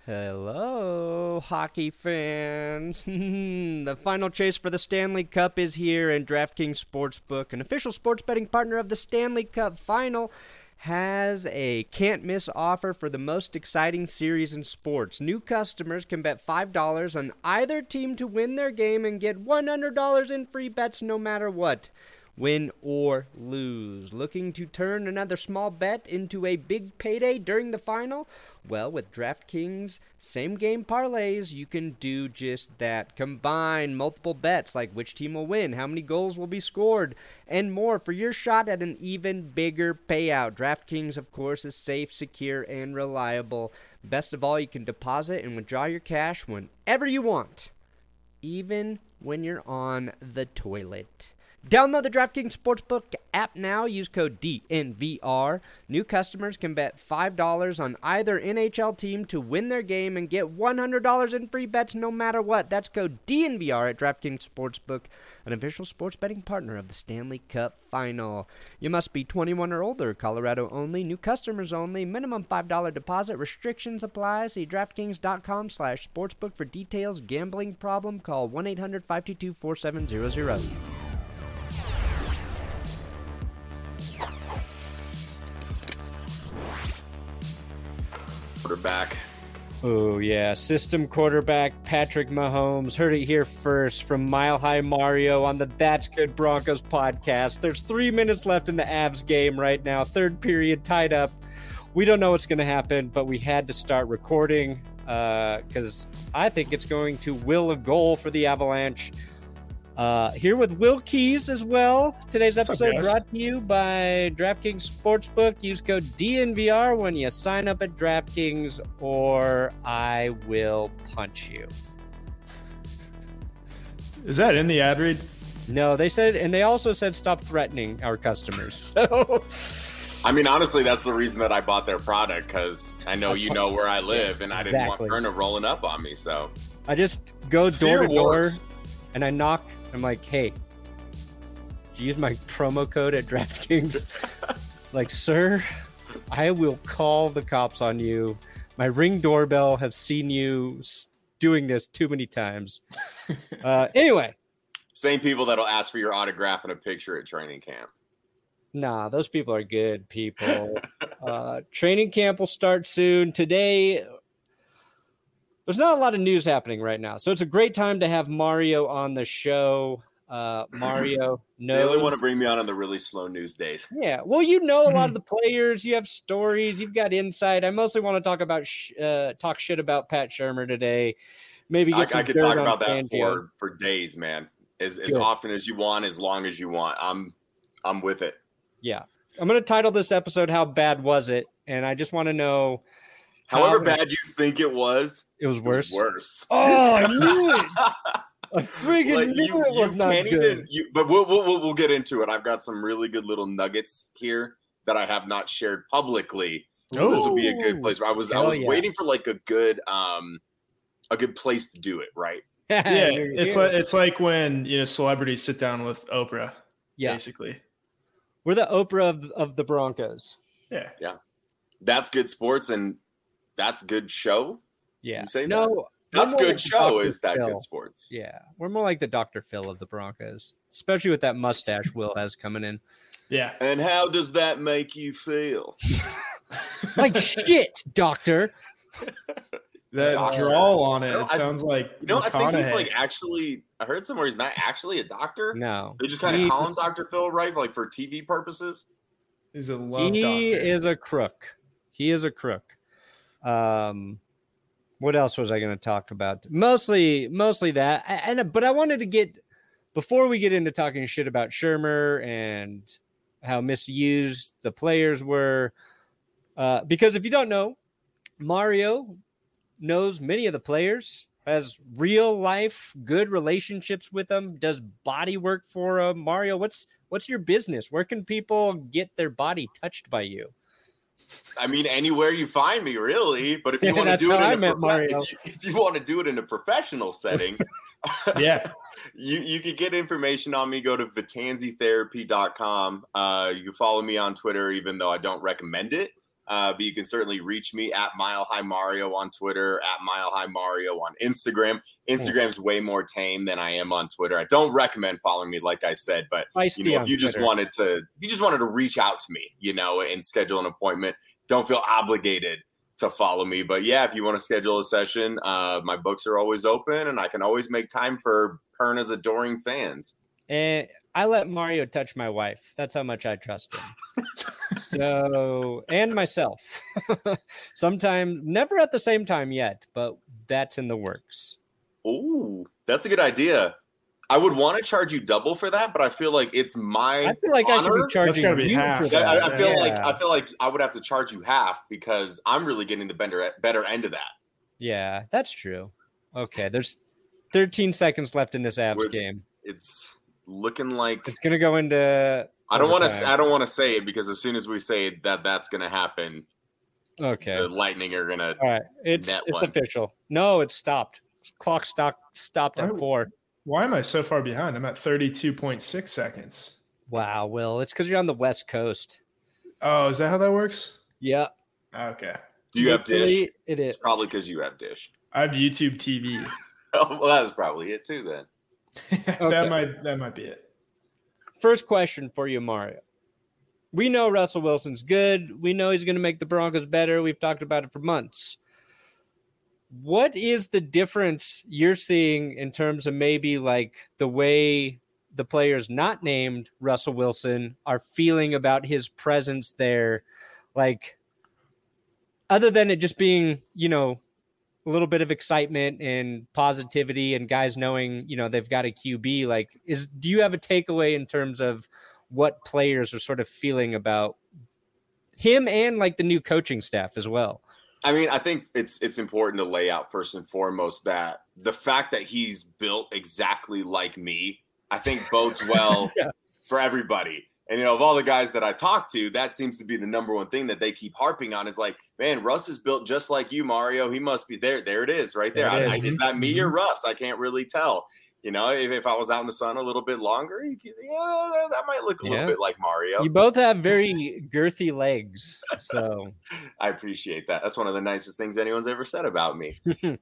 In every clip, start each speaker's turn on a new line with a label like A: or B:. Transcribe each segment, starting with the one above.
A: Hello, hockey fans. The final chase for the Stanley Cup is here, and DraftKings Sportsbook, an official sports betting partner of the Stanley Cup Final, has a can't-miss offer for the most exciting series in sports. New customers can bet $5 on either team to win their game and get $100 in free bets no matter what. Win or lose. Looking to turn another small bet into a big payday during the final? Well, with DraftKings same-game parlays, you can do just that. Combine multiple bets like which team will win, how many goals will be scored, and more for your shot at an even bigger payout. DraftKings, of course, is safe, secure, and reliable. Best of all, you can deposit and withdraw your cash whenever you want, even when you're on the toilet. Download the DraftKings Sportsbook app now. Use code DNVR. New customers can bet $5 on either NHL team to win their game and get $100 in free bets no matter what. That's code DNVR at DraftKings Sportsbook, an official sports betting partner of the Stanley Cup Final. You must be 21 or older. Colorado only. New customers only. Minimum $5 deposit. Restrictions apply. See DraftKings.com/sportsbook for details. Gambling problem? Call 1-800-522-4700.
B: Quarterback.
A: Oh, yeah. System quarterback Patrick Mahomes. Heard it here first from Mile High Mario on the That's Good Broncos podcast. There's 3 minutes left in the Avs game right now. Third period tied up. We don't know what's going to happen, but we had to start recording because I think it's going to will a goal for the Avalanche. Here with Will Keys as well. Today's episode brought to you by DraftKings Sportsbook. Use code DNVR when you sign up at DraftKings, or I will punch you.
C: Is that in the ad read?
A: No, they said, and they also said stop threatening our customers. So,
B: I mean, honestly, that's the reason that I bought their product, because I know you know where I live, and I didn't want Verna rolling up on me. So
A: I just go door to door, and I knock. I'm like, hey, did you use my promo code at DraftKings? Like, sir, I will call the cops on you. My Ring doorbell have seen you doing this too many times. Anyway.
B: Same people that'll ask for your autograph and a picture at training camp.
A: Nah, those people are good people. Training camp will start soon. Today, there's not a lot of news happening right now, so it's a great time to have Mario on the show. Mario knows.
B: They only want to bring me on the really slow news days.
A: Yeah, well, you know a lot of the players. You have stories. You've got insight. I mostly want to talk about talk shit about Pat Shurmur today. Maybe get some
B: I could talk about that for days, man. As often as you want, as long as you want. I'm with it.
A: Yeah, I'm going to title this episode "How Bad Was It?" And I just want to know.
B: However bad you think it was
A: worse.
B: Worse.
A: Oh, I knew it. I friggin' knew it was not good.
B: But we'll get into it. I've got some really good little nuggets here that I have not shared publicly. So this will be a good place. I was waiting for like a good place to do it, right?
C: Yeah, it's like when celebrities sit down with Oprah. Yeah, basically.
A: We're the Oprah of the Broncos.
B: Yeah. That's good sports and that's good show.
A: Yeah.
B: You say
A: no.
B: That's good show. Is that good sports?
A: Yeah, we're more like the Dr. Phil of the Broncos, especially with that mustache Will has coming in.
C: Yeah.
B: And how does that make you feel?
A: Like shit, Doctor.
C: That drawl on it. It sounds like
B: I think he's like actually. I heard somewhere he's not actually a doctor.
A: No,
B: they just kind of call him Dr. Phil, right? Like for TV purposes.
C: He's a love doctor.
A: He is a crook. What else was I going to talk about? Mostly that. But I wanted to get, before we get into talking shit about Shurmur and how misused the players were, because if you don't know, Mario knows many of the players, has real life good relationships with them, does body work for them. Mario, what's your business? Where can people get their body touched by you?
B: I mean, anywhere you find me, really. But if you want to do it if you want to do it in a professional setting, you can get information on me. Go to vitanzitherapy.com. You can follow me on Twitter, even though I don't recommend it. But you can certainly reach me at Mile High Mario on Twitter, at Mile High Mario on Instagram. Instagram's way more tame than I am on Twitter. I don't recommend following me, like I said, but if you just wanted to reach out to me, and schedule an appointment, don't feel obligated to follow me. But yeah, if you want to schedule a session, my books are always open, and I can always make time for Perna's adoring fans.
A: And I let Mario touch my wife. That's how much I trust him. So, and myself. Sometimes, never at the same time yet, but that's in the works.
B: Ooh, that's a good idea. I would want to charge you double for that, but I feel like it's my
A: I feel like honor. I should be charging you
C: half.
A: for that.
B: I feel like I would have to charge you half because I'm really getting the better end of that.
A: Yeah, that's true. Okay, there's 13 seconds left in this Avs game.
B: It's looking like
A: it's going to go into
B: I don't want to say it because as soon as we say that's going to happen,
A: okay,
B: the Lightning are going to
A: all right. It's official. No, it's stopped. Clock stopped at 4.
C: Why am I so far behind? I'm at 32.6 seconds.
A: Wow, Will. It's because you're on the West Coast.
C: Oh, is that how that works?
A: Yeah.
C: Okay.
B: Do you have Dish?
A: It is.
B: It's probably because you have Dish.
C: I have YouTube TV.
B: Oh, well, that's probably it too then.
C: Okay. That might be it.
A: First question for you, Mario. We know Russell Wilson's good. We know he's going to make the Broncos better. We've talked about it for months. What is the difference you're seeing in terms of maybe like the way the players not named Russell Wilson are feeling about his presence there? Like, other than it just being, a little bit of excitement and positivity and guys knowing, they've got a QB, like, do you have a takeaway in terms of what players are sort of feeling about him and like the new coaching staff as well?
B: I mean, I think it's important to lay out first and foremost that the fact that he's built exactly like me, I think bodes well for everybody. And, of all the guys that I talk to, that seems to be the number one thing that they keep harping on is like, man, Russ is built just like you, Mario. He must be there. There it is right there. Is that me or Russ? I can't really tell. If I was out in the sun a little bit longer, that might look a little bit like Mario.
A: You both have very girthy legs, so
B: I appreciate that. That's one of the nicest things anyone's ever said about me.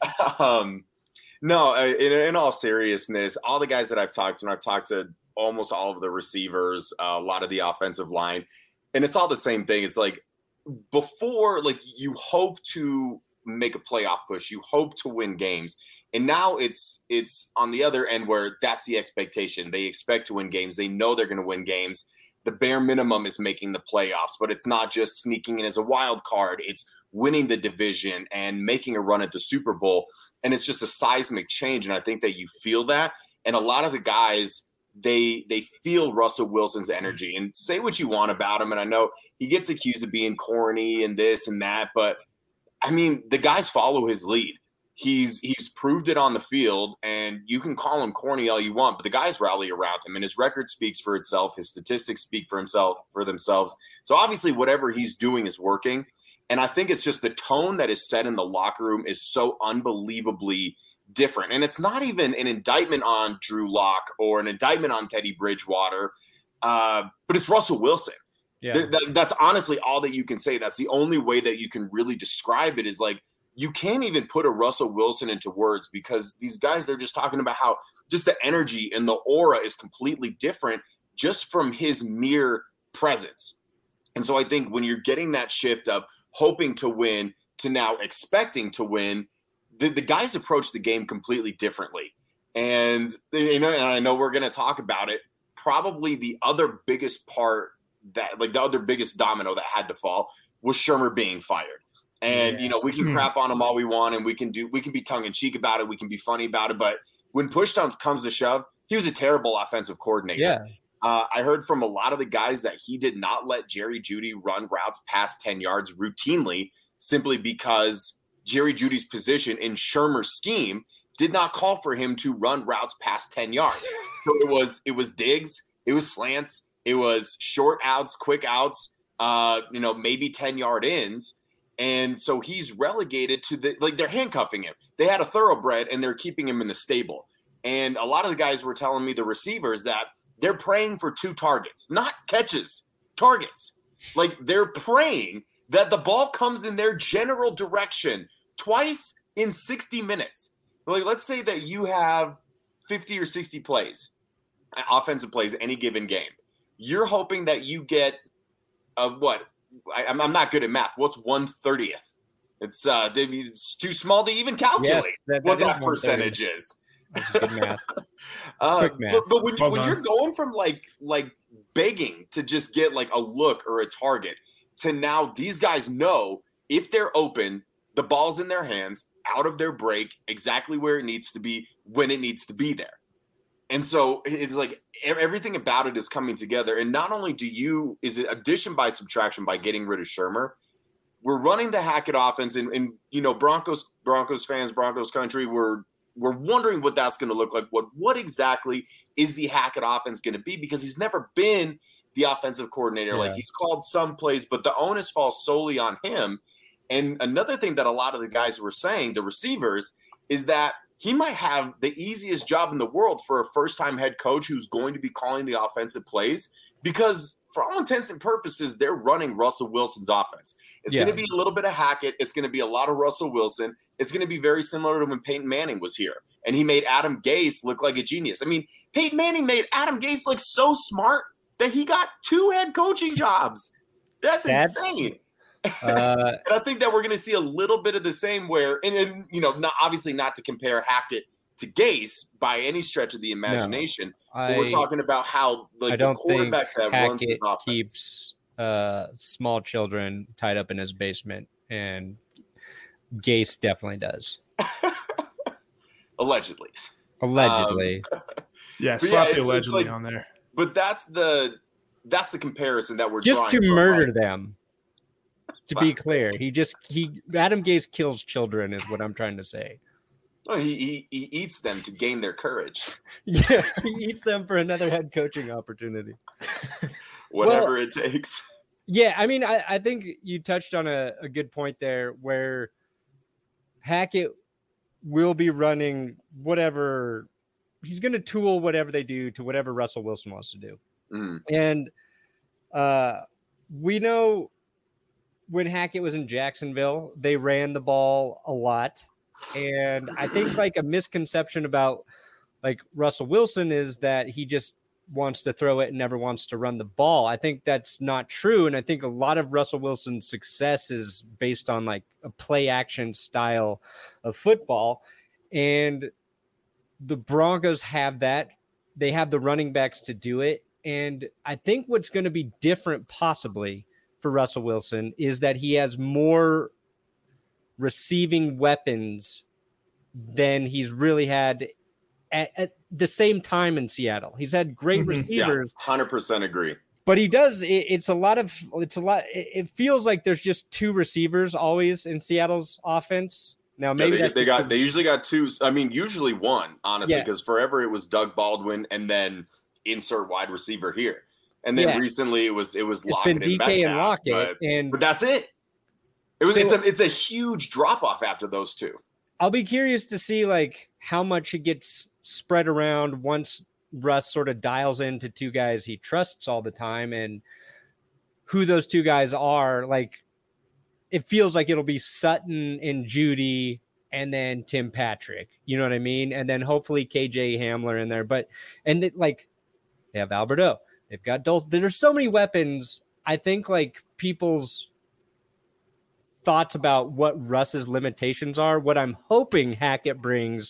B: No, in all seriousness, all the guys that I've talked to, and I've talked to almost all of the receivers, a lot of the offensive line, and it's all the same thing. It's like before, like you hope to make a playoff push, you hope to win games, and now it's on the other end where that's the expectation. They expect to win games. They know they're going to win games. The bare minimum is making the playoffs, but it's not just sneaking in as a wild card. It's winning the division and making a run at the Super Bowl, and it's just a seismic change, and I think that you feel that, and a lot of the guys, they feel Russell Wilson's energy, and say what you want about him, and I know he gets accused of being corny and this and that, but I mean, the guys follow his lead. He's proved it on the field, and you can call him corny all you want, but the guys rally around him, and his record speaks for itself. His statistics speak for themselves. So obviously whatever he's doing is working, and I think it's just the tone that is set in the locker room is so unbelievably different. And it's not even an indictment on Drew Lock or an indictment on Teddy Bridgewater, but it's Russell Wilson. Yeah. That's honestly all that you can say. That's the only way that you can really describe it is like you can't even put a Russell Wilson into words because these guys, they're just talking about how just the energy and the aura is completely different just from his mere presence. And so I think when you're getting that shift of hoping to win to now expecting to win, the guys approach the game completely differently. And, and I know we're going to talk about it. Probably the other biggest part that like the other biggest domino that had to fall was Shurmur being fired. And, we can crap on him all we want and we can be tongue in cheek about it. We can be funny about it. But when push comes to shove, he was a terrible offensive coordinator.
A: Yeah.
B: I heard from a lot of the guys that he did not let Jerry Jeudy run routes past 10 yards routinely simply because Jerry Jeudy's position in Shurmur's scheme did not call for him to run routes past 10 yards. So it was digs, it was slants, it was short outs, quick outs, maybe 10-yard ins. And so he's relegated to they're handcuffing him. They had a thoroughbred and they're keeping him in the stable. And a lot of the guys were telling me, the receivers, that they're praying for 2 targets, not catches, targets. Like they're praying that the ball comes in their general direction twice in 60 minutes. Like, let's say that you have 50 or 60 plays, offensive plays, any given game. You're hoping that you get what? I'm not good at math. What's 1/30th? It's too small to even calculate what that percentage is.
A: That's good math. Quick math.
B: But when you're going from like begging to just get like a look or a target to now these guys know if they're open, the ball's in their hands, out of their break, exactly where it needs to be, when it needs to be there. And so it's like everything about it is coming together. And not only is it addition by subtraction by getting rid of Shurmur, we're running the Hackett offense, and Broncos fans, Broncos country, we're wondering what that's going to look like. What exactly is the Hackett offense going to be? Because he's never been the offensive coordinator. Yeah. Like, he's called some plays, but the onus falls solely on him. And another thing that a lot of the guys were saying, the receivers, is that he might have the easiest job in the world for a first-time head coach who's going to be calling the offensive plays, because for all intents and purposes, they're running Russell Wilson's offense. It's going to be a little bit of Hackett. It's going to be a lot of Russell Wilson. It's going to be very similar to when Peyton Manning was here, and he made Adam Gase look like a genius. I mean, Peyton Manning made Adam Gase look so smart that he got 2 head coaching jobs. That's insane. And I think that we're going to see a little bit of the same where, and obviously not to compare Hackett to Gase by any stretch of the imagination. But we're talking about how
A: the quarterback that runs his offense keeps small children tied up in his basement, and Gase definitely does.
B: Allegedly.
C: Yeah, slap the allegedly on there.
B: But that's the comparison that we're
A: just to murder them. To be clear, Adam Gase kills children is what I'm trying to say.
B: Well, he eats them to gain their courage.
A: Yeah, he eats them for another head coaching opportunity.
B: Whatever it takes.
A: Yeah, I mean, I think you touched on a good point there where Hackett will be running whatever – he's going to tool whatever they do to whatever Russell Wilson wants to do.
B: Mm.
A: And we know – when Hackett was in Jacksonville, they ran the ball a lot. And I think like a misconception about like Russell Wilson is that he just wants to throw it and never wants to run the ball. I think that's not true. And I think a lot of Russell Wilson's success is based on like a play action style of football. And the Broncos have that. They have the running backs to do it. And I think what's going to be different possibly for Russell Wilson is that he has more receiving weapons than he's really had at the same time in Seattle. He's had great receivers.
B: Yeah, 100% agree.
A: But he does. It feels like there's just 2 receivers always in Seattle's offense. Now maybe
B: they usually got 2. I mean, usually 1, honestly, because forever it was Doug Baldwin and then insert wide receiver here. And then recently it was Lockett
A: and DK and Lockett,
B: but that's it. It's a huge drop off after those 2.
A: I'll be curious to see like how much it gets spread around once Russ sort of dials into 2 guys he trusts all the time, and who those 2 guys are. Like, it feels like it'll be Sutton and Judy and then Tim Patrick. You know what I mean? And then hopefully KJ Hamler in there. They have Alberto. They've got Dulce. There's so many weapons. I think like people's thoughts about what Russ's limitations are, what I'm hoping Hackett brings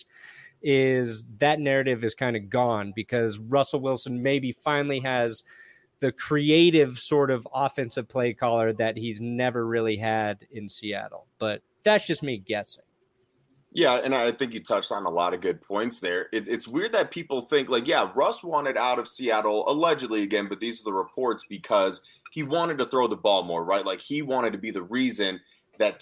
A: is that narrative is kind of gone, because Russell Wilson maybe finally has the creative sort of offensive play caller that he's never really had in Seattle. But that's just me guessing.
B: Yeah, and I think you touched on a lot of good points there. It's weird that people think, like, yeah, Russ wanted out of Seattle, allegedly again, but these are the reports, because he wanted to throw the ball more, right? Like, he wanted to be the reason that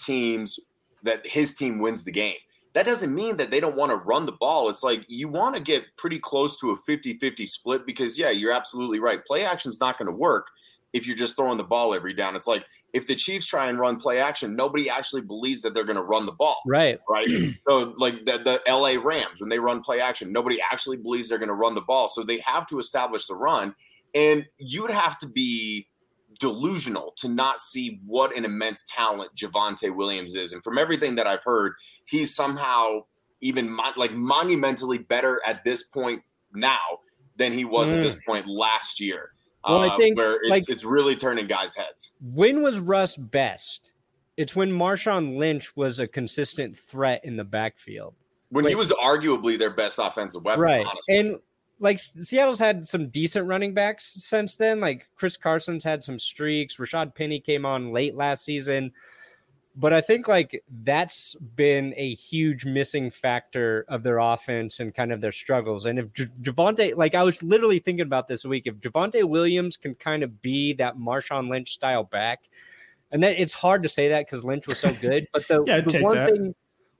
B: his team wins the game. That doesn't mean that they don't want to run the ball. It's like you want to get pretty close to a 50-50 split because, yeah, you're absolutely right. Play action's not going to work if you're just throwing the ball every down. It's like if the Chiefs try and run play action, nobody actually believes that they're going to run the ball.
A: Right.
B: So like the LA Rams, when they run play action, nobody actually believes they're going to run the ball. So they have to establish the run. And you would have to be delusional to not see what an immense talent Javonte Williams is. And from everything that I've heard, he's somehow even monumentally better at this point now than he was at this point last year.
A: Well, I think
B: where it's really turning guys' heads.
A: When was Russ best? It's when Marshawn Lynch was a consistent threat in the backfield.
B: When he was arguably their best offensive weapon,
A: right?
B: Honestly.
A: And Seattle's had some decent running backs since then. Like Chris Carson's had some streaks. Rashad Penny came on late last season. But I think that's been a huge missing factor of their offense and kind of their struggles. And if Javonte, I was literally thinking about this week, if Javonte Williams can kind of be that Marshawn Lynch style back, and that it's hard to say that because Lynch was so good, but the one thing,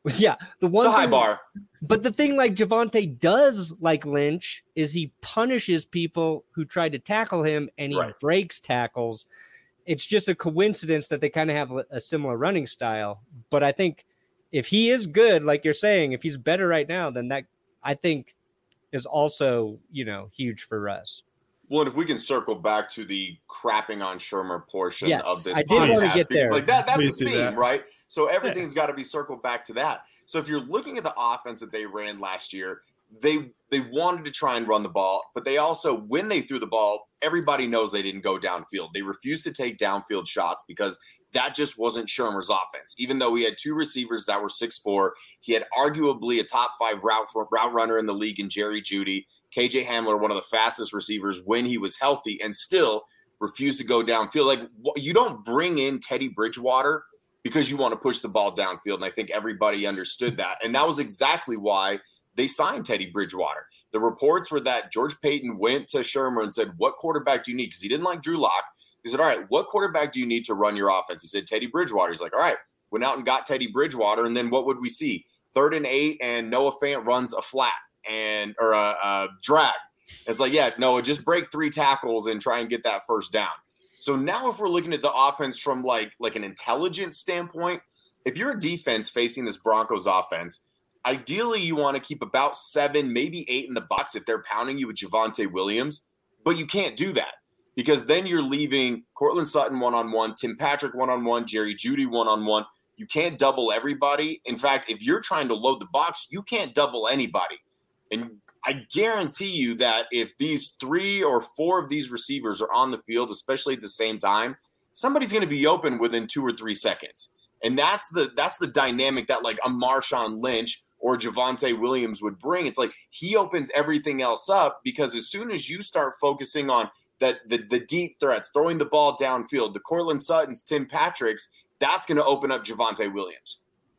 A: the one
B: high bar.
A: But the thing Javonte does like Lynch is he punishes people who try to tackle him and he breaks tackles. It's just a coincidence that they kind of have a similar running style. But I think if he is good, like you're saying, if he's better right now, then that I think is also, huge for Russ.
B: Well, and if we can circle back to the crapping on Shurmur portion of this,
A: I did want to get there.
B: That's the theme, right? So everything's got to be circled back to that. So if you're looking at the offense that they ran last year, they wanted to try and run the ball, but they also, when they threw the ball, everybody knows they didn't go downfield. They refused to take downfield shots because that just wasn't Shurmur's offense. Even though he had two receivers that were 6'4", he had arguably a top 5 route runner in the league in Jerry Jeudy, KJ Hamler, one of the fastest receivers when he was healthy, and still refused to go downfield. You don't bring in Teddy Bridgewater because you want to push the ball downfield, and I think everybody understood that. And that was exactly why they signed Teddy Bridgewater. The reports were that George Paton went to Shurmur and said, what quarterback do you need? Because he didn't like Drew Lock. He said, all right, what quarterback do you need to run your offense? He said, Teddy Bridgewater. He's like, all right, went out and got Teddy Bridgewater. And then what would we see? 3rd and 8, and Noah Fant runs a flat or a drag. It's like, Noah, just break 3 tackles and try and get that first down. So now if we're looking at the offense from like an intelligence standpoint, if you're a defense facing this Broncos offense, ideally, you want to keep about 7, maybe 8 in the box if they're pounding you with Javonte Williams, but you can't do that because then you're leaving Courtland Sutton one-on-one, Tim Patrick one-on-one, Jerry Jeudy one-on-one. You can't double everybody. In fact, if you're trying to load the box, you can't double anybody. And I guarantee you that if these 3 or 4 of these receivers are on the field, especially at the same time, somebody's going to be open within 2 or 3 seconds. And that's the dynamic that a Marshawn Lynch or Javonte Williams would bring. It's he opens everything else up because as soon as you start focusing on the deep threats, throwing the ball downfield, the Courtland Suttons, Tim Patricks, that's going to open up Javonte Williams.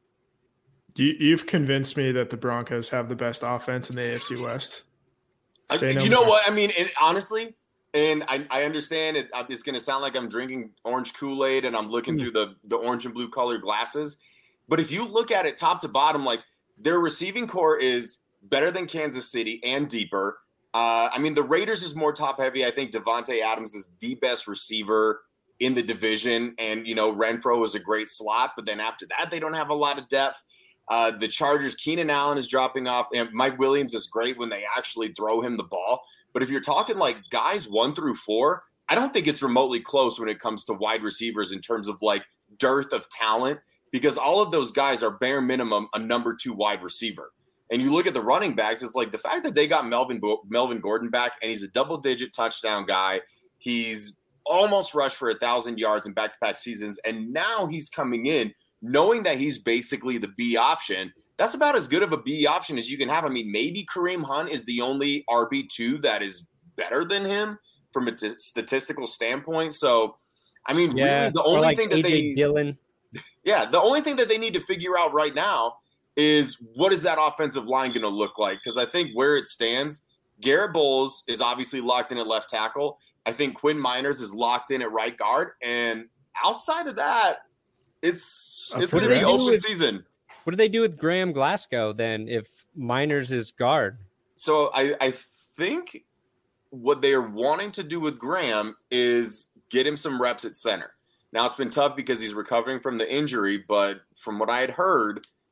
C: You've convinced me that the Broncos have the best offense in the AFC West.
B: You know what? I mean, honestly, and I understand it's going to sound like I'm drinking orange Kool-Aid and I'm looking through the orange and blue colored glasses. But if you look at it top to bottom, their receiving core is better than Kansas City and deeper. The Raiders is more top-heavy. I think Devontae Adams is the best receiver in the division. And, Renfro is a great slot. But then after that, they don't have a lot of depth. The Chargers, Keenan Allen is dropping off. And Mike Williams is great when they actually throw him the ball. But if you're talking guys 1 through 4, I don't think it's remotely close when it comes to wide receivers in terms of dearth of talent. Because all of those guys are bare minimum a number 2 wide receiver. And you look at the running backs, it's the fact that they got Melvin Gordon back, and he's a double-digit touchdown guy. He's almost rushed for 1,000 yards in back-to-back seasons, and now he's coming in knowing that he's basically the B option. That's about as good of a B option as you can have. Maybe Kareem Hunt is the only RB2 that is better than him from a statistical standpoint. So, really, the only thing that
A: Dillon.
B: Yeah, the only thing that they need to figure out right now is what is that offensive line going to look like? Because I think where it stands, Garrett Bowles is obviously locked in at left tackle. I think Quinn Miners is locked in at right guard. And outside of that, it's going to be open season.
A: What do they do with Graham Glasgow then if Miners is guard?
B: So I think what they are wanting to do with Graham is get him some reps at center. Now, it's been tough because he's recovering from the injury, but from what I had heard,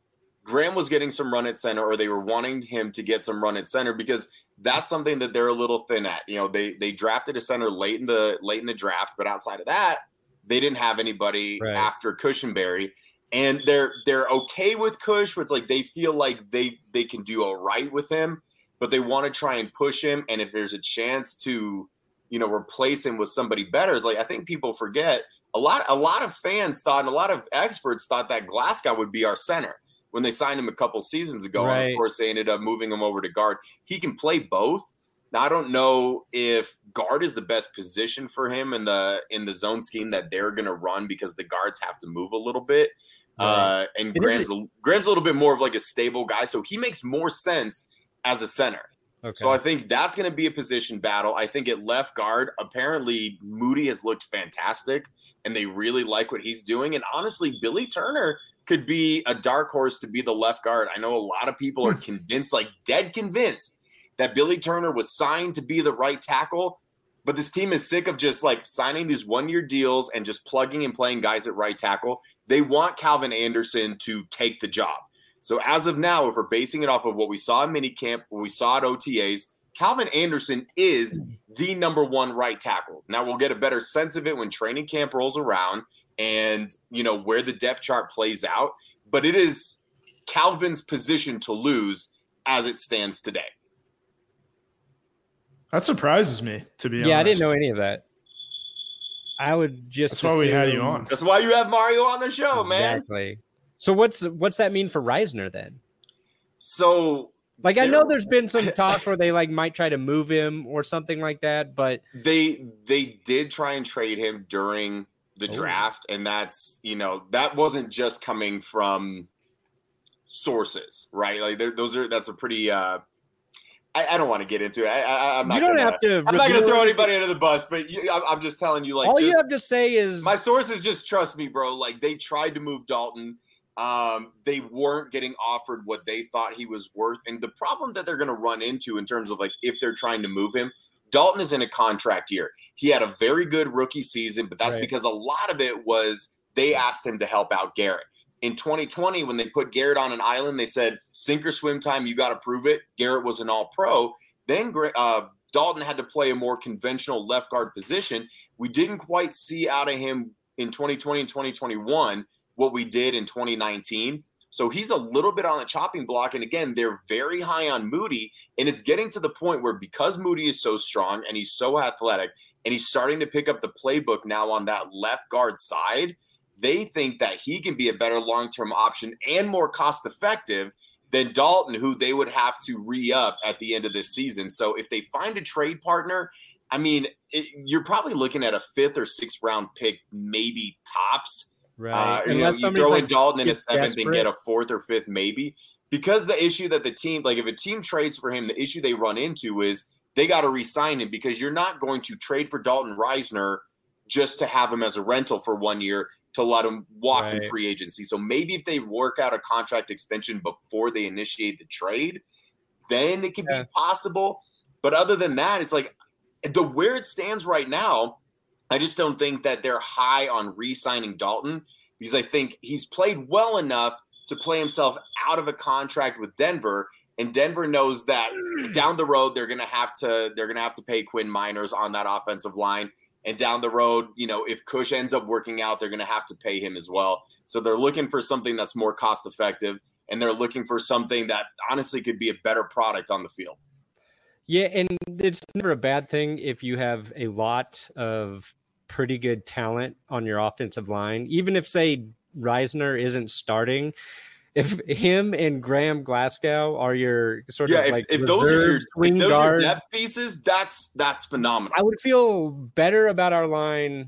B: Graham was getting some run at center, or they were wanting him to get some run at center, because that's something that they're a little thin at. You know, they drafted a center late in the draft, but outside of that, they didn't have anybody after Cushenberry. And they're okay with Cush, but it's like they feel like they can do all right with him, but they want to try and push him. And if there's a chance to, you know, replace him with somebody better, it's like, I think people forget, a lot of fans thought, and a lot of experts thought, that Glasgow would be our center when they signed him a couple seasons ago. And of course, they ended up moving him over to guard. He can play both. Now, I don't know if guard is the best position for him in the zone scheme that they're going to run, because the guards have to move a little bit. And Graham's a little bit more of like a stable guy, so he makes more sense as a center. Okay. So I think that's going to be a position battle. I think at left guard, apparently Moody has looked fantastic, and they really like what he's doing. And honestly, Billy Turner could be a dark horse to be the left guard. I know a lot of people are convinced, like dead convinced, that Billy Turner was signed to be the right tackle, but this team is sick of just like signing these 1-year deals and just plugging and playing guys at right tackle. They want Calvin Anderson to take the job. So as of now, if we're basing it off of what we saw in minicamp, what we saw at OTAs, Calvin Anderson is the number 1 right tackle. Now we'll get a better sense of it when training camp rolls around and, you know, where the depth chart plays out. But it is Calvin's position to lose as it stands today.
C: That surprises me, to be honest.
A: Yeah, I didn't know any of that. I would just.
C: That's why we had you on.
B: That's why you have Mario on the show, man.
A: Exactly. So what's that mean for Reisner then?
B: So,
A: like, I know there's been some talks where they like might try to move him or something like that, but
B: they did try and trade him during the draft, and that's, you know, that wasn't just coming from sources, right? Like that's a pretty. I don't want to get into it. I'm not going to throw anybody under the bus, but I'm just telling you, like,
A: all you have to say is
B: my sources. Just trust me, bro. Like, they tried to move Dalton. They weren't getting offered what they thought he was worth. And the problem that they're going to run into in terms of like, if they're trying to move him, Dalton is in a contract year. He had a very good rookie season, but that's because a lot of it was they asked him to help out Garrett. In 2020, when they put Garrett on an island, they said, sink or swim time, you got to prove it. Garrett was an all-pro. Then Dalton had to play a more conventional left guard position. We didn't quite see out of him in 2020 and 2021 what we did in 2019. So he's a little bit on the chopping block. And again, they're very high on Moody. And it's getting to the point where, because Moody is so strong and he's so athletic and he's starting to pick up the playbook now on that left guard side, they think that he can be a better long-term option and more cost-effective than Dalton, who they would have to re-up at the end of this season. So if they find a trade partner, I mean, you're probably looking at a 5th or 6th round pick, maybe tops.
A: Right.
B: You throw in Dalton in a 7th and get a 4th or 5th maybe. Because the issue that the team, like if a team trades for him, the issue they run into is they got to re-sign him, because you're not going to trade for Dalton Reisner just to have him as a rental for 1 year, to let him walk in free agency. So maybe if they work out a contract extension before they initiate the trade, then it could be possible. But other than that, it's like where it stands right now, I just don't think that they're high on re-signing Dalton, because I think he's played well enough to play himself out of a contract with Denver. And Denver knows that down the road they're gonna have to pay Quinn Miners on that offensive line. And down the road, you know, if Cush ends up working out, they're going to have to pay him as well. So they're looking for something that's more cost effective, and they're looking for something that honestly could be a better product on the field.
A: Yeah, and it's never a bad thing if you have a lot of pretty good talent on your offensive line. Even if, say, Reisner isn't starting, if him and Graham Glasgow are your sort of like
B: if those are your depth pieces, that's phenomenal.
A: I would feel better about our line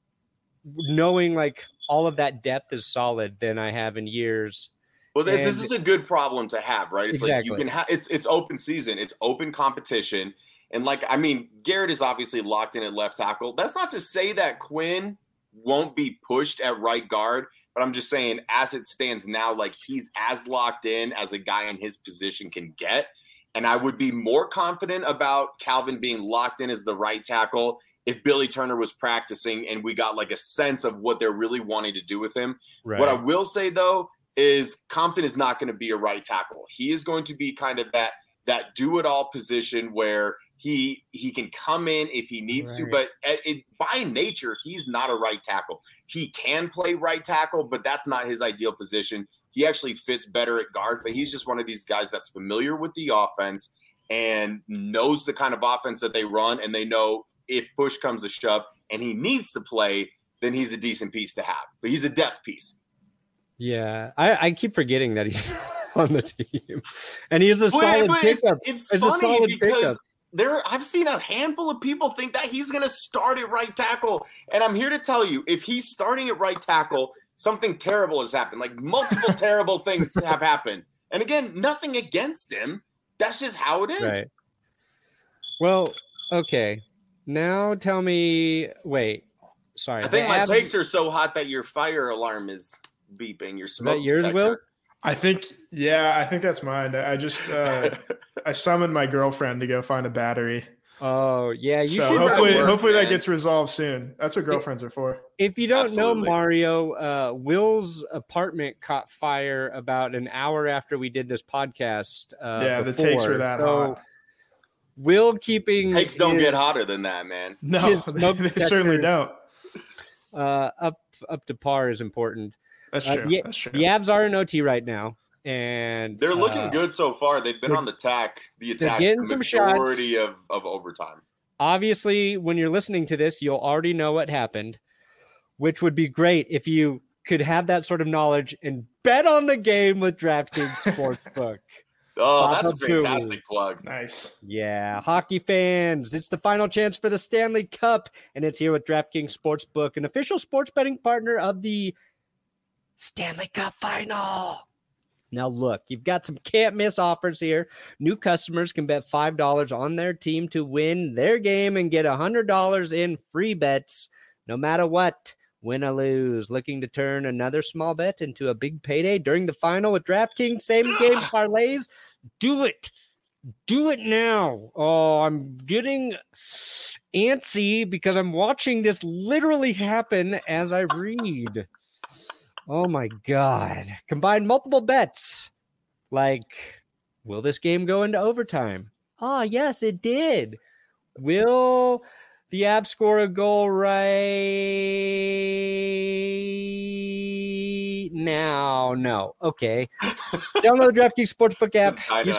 A: knowing like all of that depth is solid than I have in years.
B: Well, this is a good problem to have, right? It's like you can have it's open season, it's open competition, and like I mean, Garrett is obviously locked in at left tackle. That's not to say that Quinn won't be pushed at right guard. But I'm just saying, as it stands now, like he's as locked in as a guy in his position can get. And I would be more confident about Calvin being locked in as the right tackle if Billy Turner was practicing and we got like a sense of what they're really wanting to do with him. Right. What I will say, though, is Compton is not going to be a right tackle. He is going to be kind of that do-it-all position where he can come in if he needs to, but by nature, he's not a right tackle. He can play right tackle, but that's not his ideal position. He actually fits better at guard, but he's just one of these guys that's familiar with the offense and knows the kind of offense that they run, and they know if push comes to shove and he needs to play, then he's a decent piece to have. But he's a depth piece.
A: Yeah, I keep forgetting that he's on the team, and he's a solid pickup.
B: It's funny a solid because I've seen a handful of people think that he's going to start at right tackle, and I'm here to tell you, if he's starting at right tackle, something terrible has happened. Like multiple terrible things have happened, and again, nothing against him. That's just how it is.
A: Right. Well, okay. Now tell me. Wait, sorry.
B: I think my takes are so hot that your fire alarm is beeping. Your smoke
A: is that yours,
B: detector.
A: Will?
C: I think that's mine. I just I summoned my girlfriend to go find a battery.
A: Oh yeah,
C: hopefully that gets resolved soon. That's what girlfriends are for.
A: If you don't know, Mario, Will's apartment caught fire about an hour after we did this podcast.
C: The takes were that hot.
A: Will keeping
B: takes don't get hotter than that, man.
C: No, they certainly don't.
A: Up to par is important.
C: That's true. That's true.
A: The Avs are in OT right now, and
B: they're looking good so far. They've been on the attack. They're
A: getting some shots.
B: Of overtime.
A: Obviously, when you're listening to this, you'll already know what happened, which would be great if you could have that sort of knowledge and bet on the game with DraftKings Sportsbook.
B: Oh, that's a fantastic plug.
C: Nice.
A: Yeah, hockey fans, it's the final chance for the Stanley Cup, and it's here with DraftKings Sportsbook, an official sports betting partner of the Stanley Cup Final. Now, look, you've got some can't-miss offers here. New customers can bet $5 on their team to win their game and get $100 in free bets, no matter what. Win or lose. Looking to turn another small bet into a big payday during the final with DraftKings same-game parlays? Do it. Do it now. Oh, I'm getting antsy because I'm watching this literally happen as I read. Oh, my God. Combine multiple bets. Like, will this game go into overtime? Oh, yes, it did. Will the Avs score a goal right now? No. Okay. Download the DraftKings Sportsbook app. Use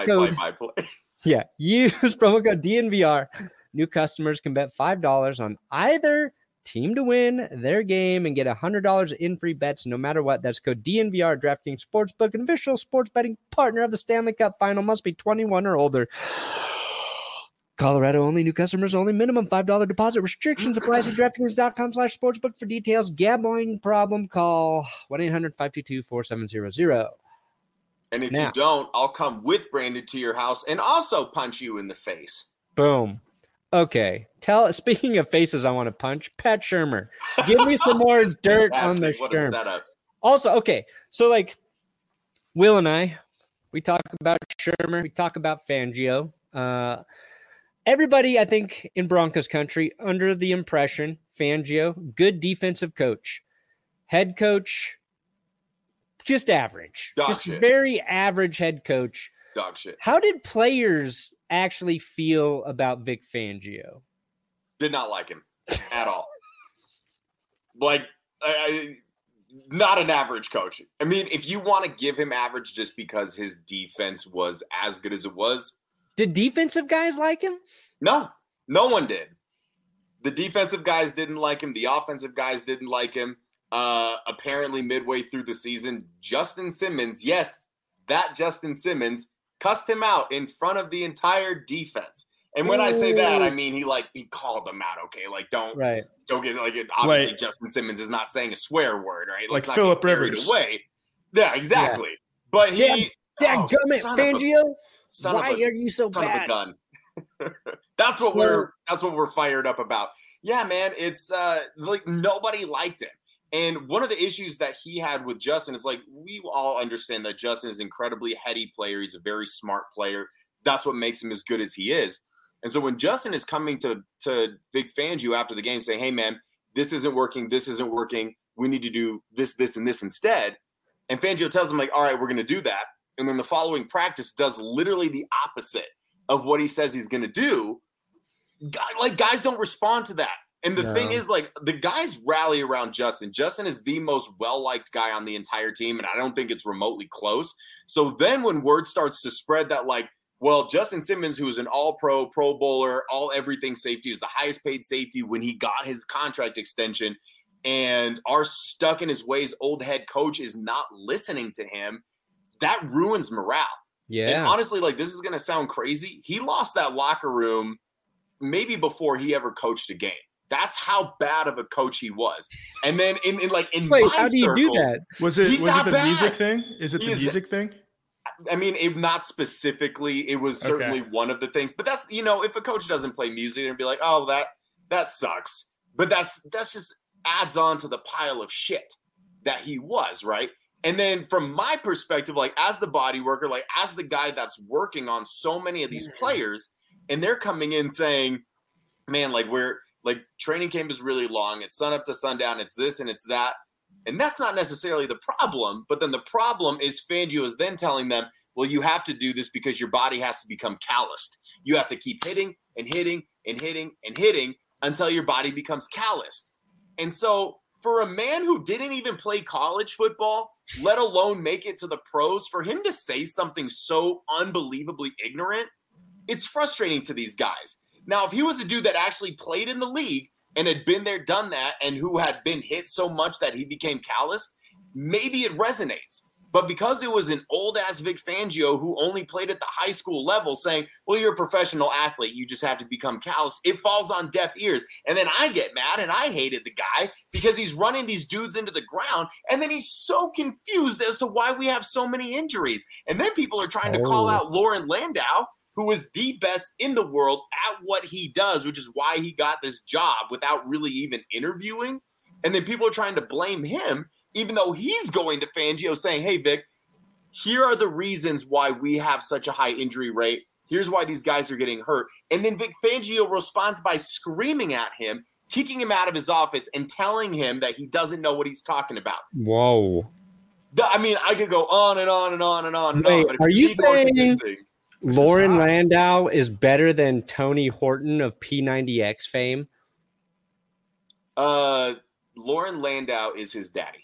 A: promo code DNVR. New customers can bet $5 on either team to win their game and get $100 in free bets no matter what. That's code DNVR. DraftKings Sportsbook, an official sports betting partner of the Stanley Cup Final. Must be 21 or older. Colorado only. New customers only. Minimum $5 deposit. Restrictions apply to DraftKings.com/sportsbook for details. Gambling problem? Call 1-800-522-4700.
B: And if you don't, I'll come with Brandon to your house and also punch you in the face.
A: Boom. Okay. Speaking of faces I want to punch, Pat Shurmur. Give me some more dirt on the Shurmur. Also, okay. So, like, Will and I, we talk about Shurmur. We talk about Fangio. Everybody, I think, in Broncos country, under the impression, Fangio, good defensive coach. Head coach, just average. Very average head coach.
B: Dog shit.
A: How did players actually feel about Vic Fangio?
B: Did not like him at all. Like, not an average coach. I mean, if you want to give him average just because his defense was as good as it was.
A: Did defensive guys like him?
B: No one did. The defensive guys didn't like him. The offensive guys didn't like him. Apparently midway through the season, Justin Simmons, yes, that Justin Simmons, cussed him out in front of the entire defense. And when I say that, I mean he called them out. Okay, like don't get obviously Justin Simmons is not saying a swear word, right?
C: Like Philip Rivers.
B: Away. Yeah, exactly. Yeah. But
A: Fangio, why are you so
B: son
A: bad?
B: Of a gun. That's what we're fired up about. Yeah, man, it's like nobody liked him. And one of the issues that he had with Justin is, like, we all understand that Justin is an incredibly heady player. He's a very smart player. That's what makes him as good as he is. And so when Justin is coming to Vic Fangio after the game saying, hey, man, this isn't working. We need to do this, this, and this instead. And Fangio tells him, like, all right, we're going to do that. And then the following practice does literally the opposite of what he says he's going to do. Like, guys don't respond to that. And the thing is, like, the guys rally around Justin. Justin is the most well-liked guy on the entire team, and I don't think it's remotely close. So then when word starts to spread that, like, well, Justin Simmons, who was an all-pro, pro bowler, all-everything safety, was the highest-paid safety when he got his contract extension, and our stuck-in-his-ways old head coach is not listening to him, that ruins morale.
A: Yeah.
B: And honestly, like, this is going to sound crazy. He lost that locker room maybe before he ever coached a game. That's how bad of a coach he was. And then in
A: Wait, how do you do that?
C: Was it the music thing? Is it the music thing?
B: I mean, not specifically. It was certainly one of the things. But that's, if a coach doesn't play music and be like, oh, that sucks. But that's just adds on to the pile of shit that he was, right? And then from my perspective, like as the body worker, like as the guy that's working on so many of these players, and they're coming in saying, man, like training camp is really long. It's sun up to sundown. It's this and it's that. And that's not necessarily the problem. But then the problem is Fangio is then telling them, well, you have to do this because your body has to become calloused. You have to keep hitting and hitting and hitting and hitting until your body becomes calloused. And so for a man who didn't even play college football, let alone make it to the pros, for him to say something so unbelievably ignorant, it's frustrating to these guys. Now, if he was a dude that actually played in the league and had been there, done that, and who had been hit so much that he became calloused, maybe it resonates. But because it was an old-ass Vic Fangio who only played at the high school level saying, well, you're a professional athlete, you just have to become callous, it falls on deaf ears. And then I get mad, and I hated the guy because he's running these dudes into the ground, and then he's so confused as to why we have so many injuries. And then people are trying to call out Lauren Landau, who is the best in the world at what he does, which is why he got this job without really even interviewing. And then people are trying to blame him, even though he's going to Fangio saying, hey, Vic, here are the reasons why we have such a high injury rate. Here's why these guys are getting hurt. And then Vic Fangio responds by screaming at him, kicking him out of his office, and telling him that he doesn't know what he's talking about.
A: Whoa.
B: I mean, I could go on and on and on and on and
A: Wait,
B: on. But
A: are you saying Lauren Landau is better than Tony Horton of P90X fame?
B: Lauren Landau is his daddy.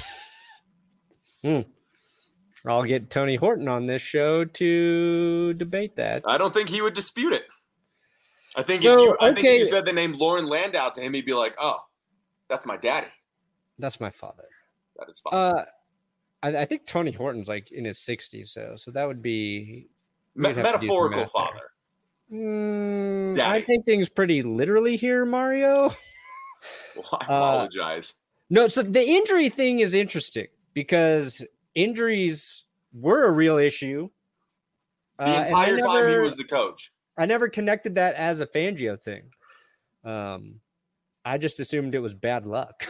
A: I'll get Tony Horton on this show to debate that.
B: I don't think he would dispute it. I think if you said the name Lauren Landau to him, he'd be like, oh, that's my daddy.
A: That's my father.
B: That is father.
A: I think Tony Horton's like in his 60s, so that would be
B: metaphorical father.
A: I take things pretty literally here, Mario.
B: Well, I apologize.
A: No, so the injury thing is interesting because injuries were a real issue.
B: The entire time he was the coach.
A: I never connected that as a Fangio thing. I just assumed it was bad luck.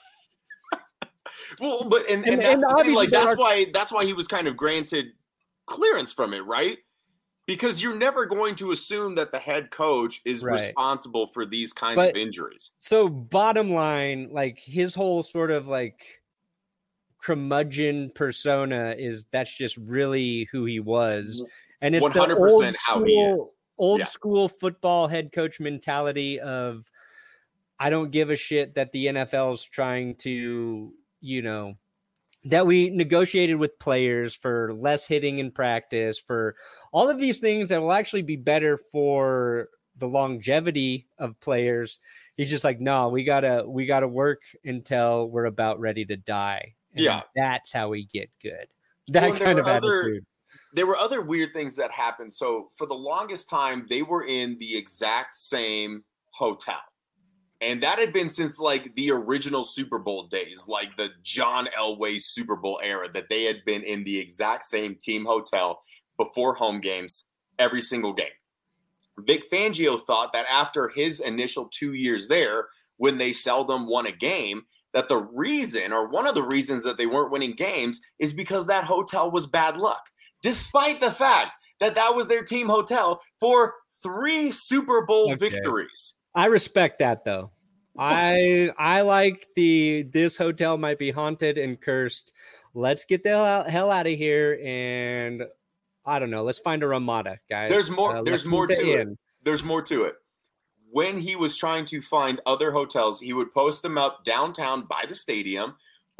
B: Well, but and that's the thing, like that's why he was kind of granted clearance from it, right? Because you're never going to assume that the head coach is responsible for these kinds of injuries.
A: So bottom line, like his whole sort of like curmudgeon persona that's just really who he was. And it's 100% how he is. Old school football head coach mentality of I don't give a shit that the NFL's trying to, that we negotiated with players for less hitting in practice, for all of these things that will actually be better for the longevity of players. He's just like, no, we gotta work until we're about ready to die. And that's how we get good. That kind of attitude.
B: There were other weird things that happened. So for the longest time, they were in the exact same hotel. And that had been since like the original Super Bowl days, like the John Elway Super Bowl era, that they had been in the exact same team hotel before home games, every single game. Vic Fangio thought that after his initial 2 years there, when they seldom won a game, that the reason, or one of the reasons that they weren't winning games, is because that hotel was bad luck. Despite the fact that that was their team hotel for 3 Super Bowl victories.
A: I respect that though. I like this hotel might be haunted and cursed let's get the hell out of here, and I don't know. Let's find a Ramada, guys.
B: There's more. There's more to it. There's more to it. When he was trying to find other hotels, he would post them up downtown by the stadium,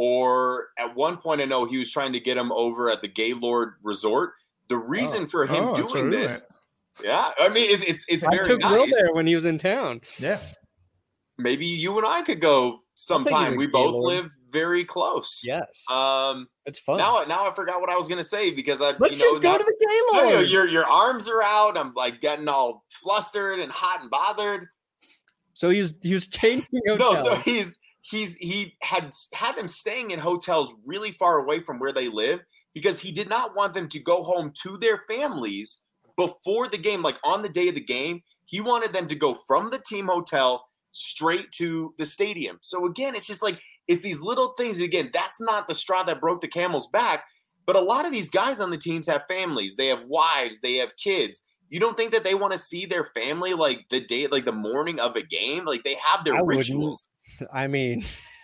B: or at one point, I know he was trying to get them over at the Gaylord Resort. The reason for him doing this, yeah, I mean, it's very nice. I took Will
A: there when he was in town.
C: Yeah,
B: maybe you and I could go sometime. We both live very close.
A: Yes,
B: it's
A: fun.
B: Now I forgot what I was going to say because
A: let's just go to the Gaylord.
B: Your arms are out. I'm like getting all flustered and hot and bothered.
A: So he was changing hotels.
B: No, so he had them staying in hotels really far away from where they live because he did not want them to go home to their families before the game, like on the day of the game. He wanted them to go from the team hotel straight to the stadium. So again, it's just like, it's these little things. Again, that's not the straw that broke the camel's back, but a lot of these guys on the teams have families. They have wives, they have kids. You don't think that they want to see their family like the day, like the morning of a game? Like they have their rituals.
A: I mean,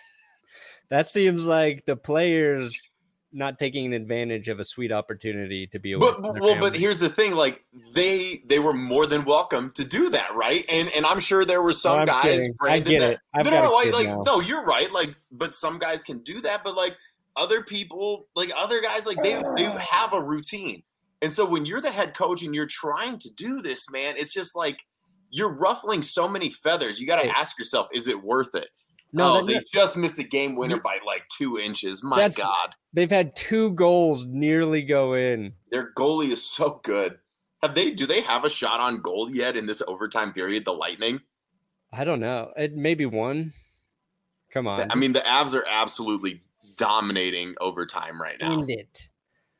A: that seems like the players not taking advantage of a sweet opportunity to be away from their family.
B: But here's the thing: like they were more than welcome to do that, right? And I'm sure there were some guys.
A: Kidding. I get it.
B: No, you're right. Like, but some guys can do that. But like other people, like other guys, like they have a routine. And so when you're the head coach and you're trying to do this, man, it's just like you're ruffling so many feathers. You got to ask yourself, is it worth it? No, they just missed a game winner by like 2 inches. My God.
A: They've had 2 goals nearly go in.
B: Their goalie is so good. Do they have a shot on goal yet in this overtime period, the Lightning?
A: I don't know. It maybe one. Come on.
B: I mean, the Avs are absolutely dominating overtime right now.
A: End it.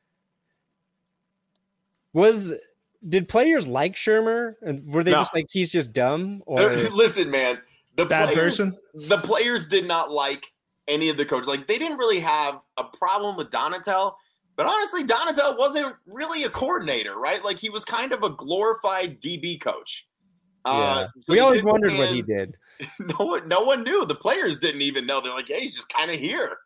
A: Did players like Shermer? And were they just like, he's just dumb? Or
B: listen, man, the players did not like any of the coaches. Like they didn't really have a problem with Donatel, but honestly, Donatel wasn't really a coordinator, right? Like he was kind of a glorified DB coach.
A: Yeah. So we always wondered what he did.
B: No one knew. The players didn't even know. They're like, hey, he's just kind of here.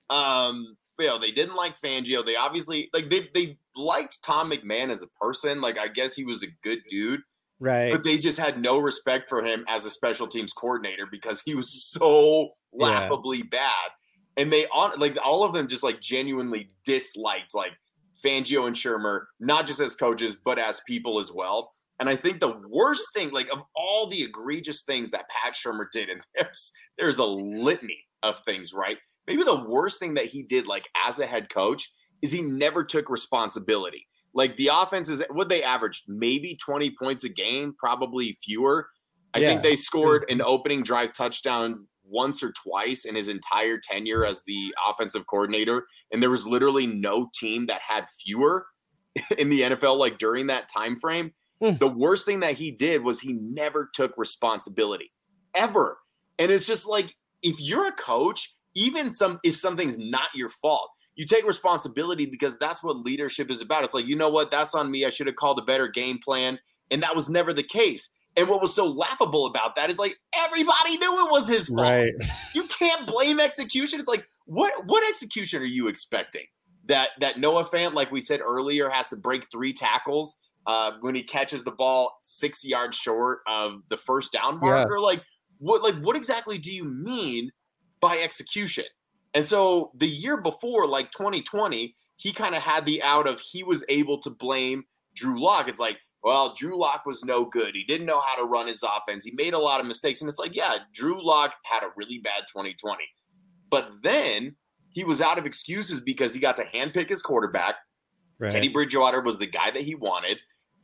B: They didn't like Fangio. They obviously they liked Tom McMahon as a person. Like I guess he was a good dude,
A: right?
B: But they just had no respect for him as a special teams coordinator because he was so laughably bad. And they all of them just like genuinely disliked like Fangio and Shermer, not just as coaches but as people as well. And I think the worst thing, like of all the egregious things that Pat Shermer did, and there's a litany of things, right? Maybe the worst thing that he did, like as a head coach, is he never took responsibility. Like the offenses, what they averaged, maybe 20 points a game, probably fewer. I think they scored an opening drive touchdown once or twice in his entire tenure as the offensive coordinator. And there was literally no team that had fewer in the NFL, like during that time frame. The worst thing that he did was he never took responsibility ever. And it's just like, if you're a coach, even if something's not your fault, you take responsibility because that's what leadership is about. It's like, you know what? That's on me. I should have called a better game plan. And that was never the case. And what was so laughable about that is like everybody knew it was his fault.
A: Right.
B: You can't blame execution. It's like, what execution are you expecting? That Noah Fant, like we said earlier, has to break 3 tackles when he catches the ball 6 yards short of the first down marker? Yeah. What exactly do you mean by execution? And so the year before, like 2020, he kind of had the out of he was able to blame Drew Lock. It's like, well, Drew Lock was no good. He didn't know how to run his offense. He made a lot of mistakes. And it's like, yeah, Drew Lock had a really bad 2020. But then he was out of excuses because he got to handpick his quarterback. Right. Teddy Bridgewater was the guy that he wanted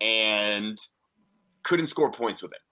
B: and couldn't score points with him.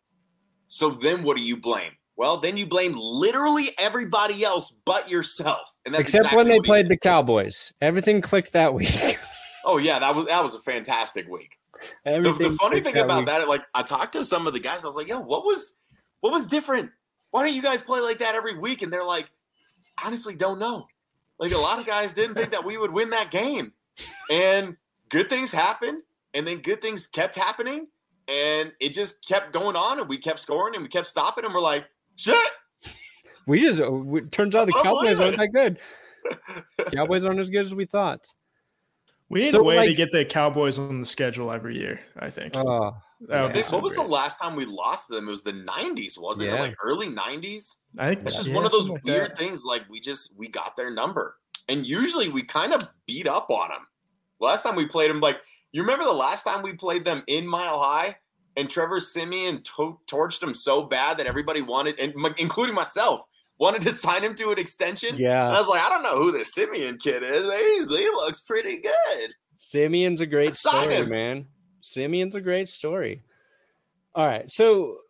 B: So then what do you blame? Well, then you blame literally everybody else but yourself. And that's
A: except when they played the Cowboys. Everything clicked that week.
B: Oh, yeah, that was a fantastic week. The funny thing about that, like I talked to some of the guys, I was like, yo, what was different? Why don't you guys play like that every week? And they're like, honestly, don't know. Like a lot of guys didn't think that we would win that game. And good things happened, and then good things kept happening, and it just kept going on, and we kept scoring, and we kept stopping, and we're like, shit.
A: Turns out the Cowboys aren't that good. Cowboys aren't as good as we thought.
C: We need a way to get the Cowboys on the schedule every year, I think.
A: Oh,
B: what was the last time we lost to them? It was the 90s, wasn't it? Like early 90s?
C: I think
B: it's just one of those weird things. Like we got their number. And usually we kind of beat up on them. Last time we played them, like, you remember the last time we played them in Mile High? And Trevor Siemian torched him so bad that everybody wanted, and including myself, wanted to sign him to an extension.
A: Yeah.
B: And I was like, I don't know who this Siemian kid is. He looks pretty good.
A: Siemian's a great story, man. Siemian's a great story. All right. So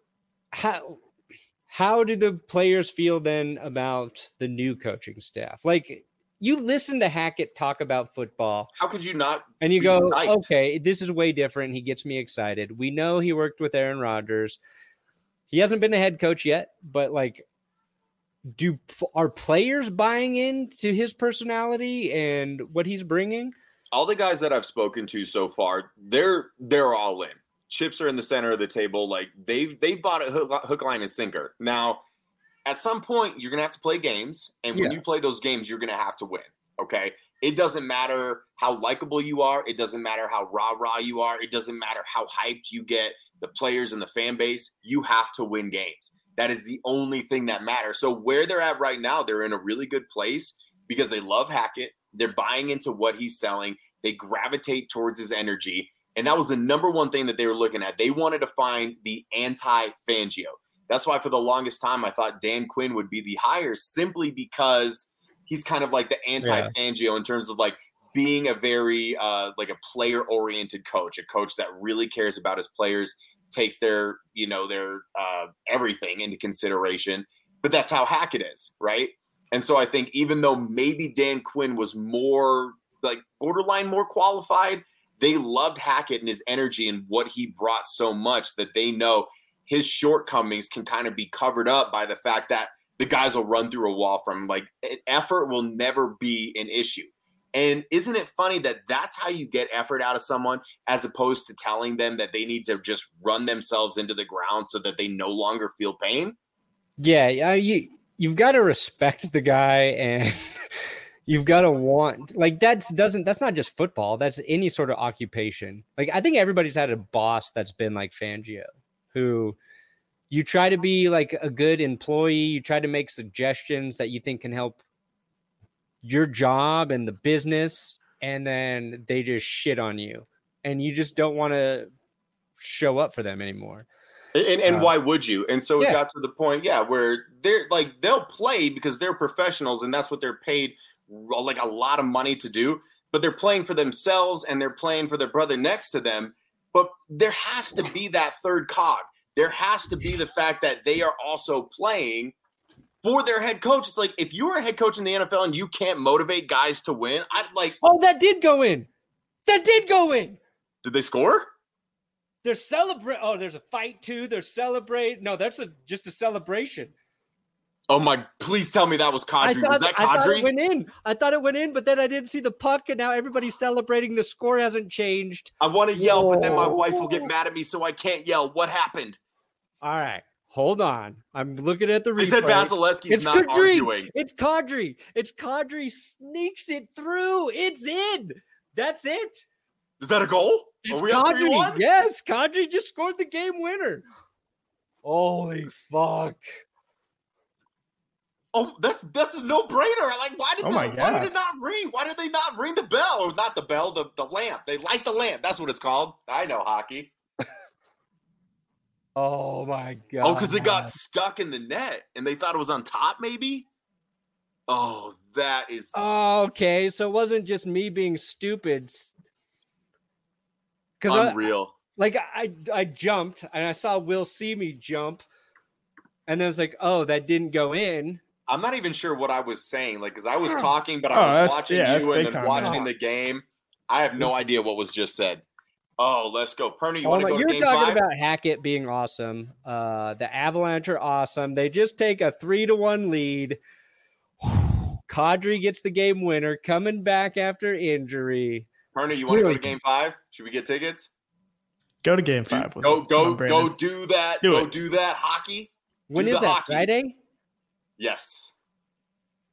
A: how do the players feel then about the new coaching staff? Like, you listen to Hackett talk about football.
B: How could you not?
A: And you go, okay, this is way different. He gets me excited. We know he worked with Aaron Rodgers. He hasn't been the head coach yet, but like, are players buying into his personality and what he's bringing?
B: All the guys that I've spoken to so far, they're all in. Chips are in the center of the table. Like they bought a hook, line, and sinker. Now, at some point, you're going to have to play games. And when you play those games, you're going to have to win. Okay? It doesn't matter how likable you are. It doesn't matter how rah-rah you are. It doesn't matter how hyped you get the players and the fan base. You have to win games. That is the only thing that matters. So where they're at right now, they're in a really good place because they love Hackett. They're buying into what he's selling. They gravitate towards his energy. And that was the number one thing that they were looking at. They wanted to find the anti-Fangio. That's why for the longest time, I thought Dan Quinn would be the hire simply because he's kind of like the anti-Fangio in terms of like being a very like a player-oriented coach, a coach that really cares about his players, takes their everything into consideration. But that's how Hackett is, right? And so I think even though maybe Dan Quinn was more like borderline more qualified, they loved Hackett and his energy and what he brought so much that they know his shortcomings can kind of be covered up by the fact that the guys will run through a wall from him. Like effort will never be an issue. And isn't it funny that that's how you get effort out of someone as opposed to telling them that they need to just run themselves into the ground so that they no longer feel pain?
A: Yeah, you've got to respect the guy and you've got to want, like, that's not just football. That's any sort of occupation. Like, I think everybody's had a boss that's been like Fangio, who you try to be like a good employee. You try to make suggestions that you think can help your job and the business, and then they just shit on you and you just don't want to show up for them anymore.
B: And why would you? And so it got to the point, where they're like, they'll play because they're professionals and that's what they're paid like a lot of money to do, but they're playing for themselves and they're playing for their brother next to them. But there has to be that third cog. There has to be the fact that they are also playing for their head coach. It's like, if you were a head coach in the NFL and you can't motivate guys to win, I'd like.
A: Oh, that did go in. Did
B: they score?
A: They're celebrating. Oh, there's a fight too. They're celebrating. No, that's just a celebration.
B: Oh my! Please tell me that was Kadri. Was that Kadri?
A: I thought it went in, but then I didn't see the puck, and now everybody's celebrating. The score hasn't changed.
B: I want to yell, but then my wife will get mad at me, so I can't yell. What happened?
A: All right, hold on. I'm looking at the replay.
B: They said Vasilevsky's not arguing.
A: It's Kadri. Sneaks it through. It's in. That's it.
B: Is that a goal?
A: It's Kadri. Yes, Kadri just scored the game winner. Holy fuck.
B: Oh, that's a no-brainer. Like, why did it not ring? Why did they not ring the bell? Or not the bell, the lamp. They light the lamp. That's what it's called. I know hockey.
A: Oh, my God.
B: Oh, because it got stuck in the net, and they thought it was on top, maybe? Oh, that is...
A: Oh, okay, so it wasn't just me being stupid.
B: Unreal.
A: I jumped, and I saw Will see me jump, and then I was like, oh, that didn't go in.
B: I'm not even sure what I was saying, like, because I was talking, but I was watching you and then watching the game. I have no idea what was just said. Oh, let's go. Perny, you want to go to game 5?
A: You're talking about Hackett being awesome. The Avalanche are awesome. They just take a 3-1 lead. Kadri gets the game winner, coming back after injury.
B: Perny, you want to go to game 5? Should we get tickets?
C: Go to game 5.
B: Go do that. Do that hockey.
A: When is that? Friday?
B: Yes.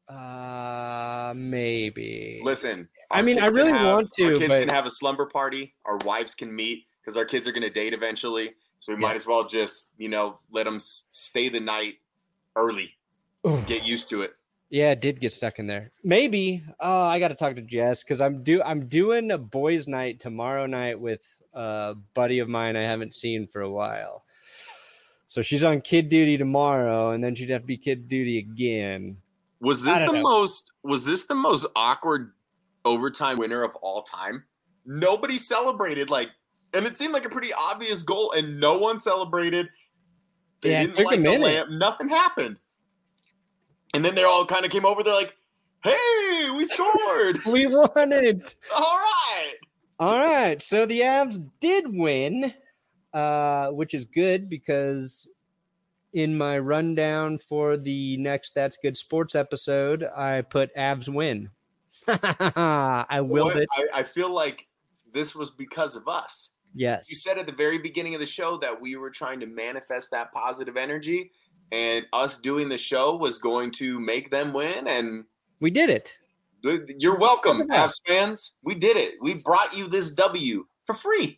A: Maybe.
B: Listen,
A: I mean, I really want to.
B: Our kids can have a slumber party. Our wives can meet because our kids are going to date eventually. So we might as well just, let them stay the night early. Oof. Get used to it.
A: Yeah, it did get stuck in there. Maybe. I got to talk to Jess because I'm doing a boys' night tomorrow night with a buddy of mine I haven't seen for a while. So she's on kid duty tomorrow, and then she'd have to be kid duty again.
B: Was this the most awkward overtime winner of all time? Nobody celebrated, and it seemed like a pretty obvious goal, and no one celebrated. They didn't light the lamp. Nothing happened. And then they all kind of came over. They're like, "Hey, we scored.
A: We won it.
B: All
A: right. So the Avs did win, which is good because in my rundown for the next That's Good Sports episode, I put Avs win. I willed it.
B: I feel like this was because of us.
A: Yes.
B: You said at the very beginning of the show that we were trying to manifest that positive energy, and us doing the show was going to make them win, and
A: we did it.
B: You're welcome, Avs fans. We did it. We brought you this W for free.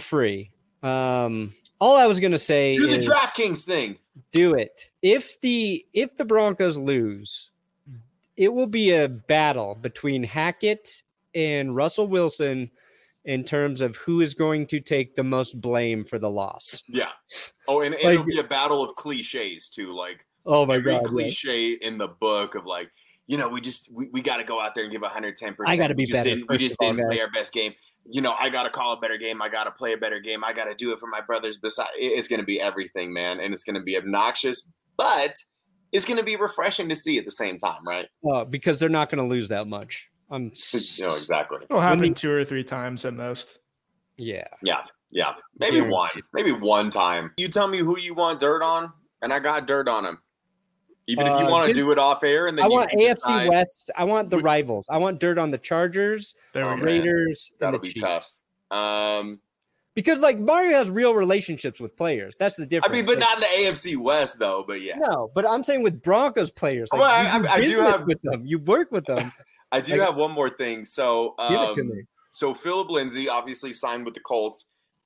A: All I was going to say
B: is do the DraftKings thing.
A: Do it. If the Broncos lose, it will be a battle between Hackett and Russell Wilson in terms of who is going to take the most blame for the loss.
B: Yeah. Oh, and it'll be a battle of cliches too.
A: Oh my God,
B: cliche in the book of we got to go out there and give 110%.
A: I got to be better.
B: We just didn't play our best game. I got to call a better game. I got to play a better game. I got to do it for my brothers. It's going to be everything, man. And it's going to be obnoxious, but it's going to be refreshing to see at the same time, right?
A: Because they're not going to lose that much.
B: Exactly.
C: It'll happen 2 or 3 times at most.
B: Yeah. Maybe one time. You tell me who you want dirt on, and I got dirt on him. Even if you want to do it off air, and then
A: I want AFC West. I want the rivals. I want dirt on the Chargers, Raiders, and the Chiefs.
B: That'll be tough.
A: Because Mario has real relationships with players. That's the difference.
B: I mean, but not in the AFC West, though. But yeah.
A: No, but I'm saying with Broncos players.
B: I do have
A: with them. You work with them.
B: I do have one more thing. So,
A: give it to me.
B: So Philip Lindsay obviously signed with the Colts.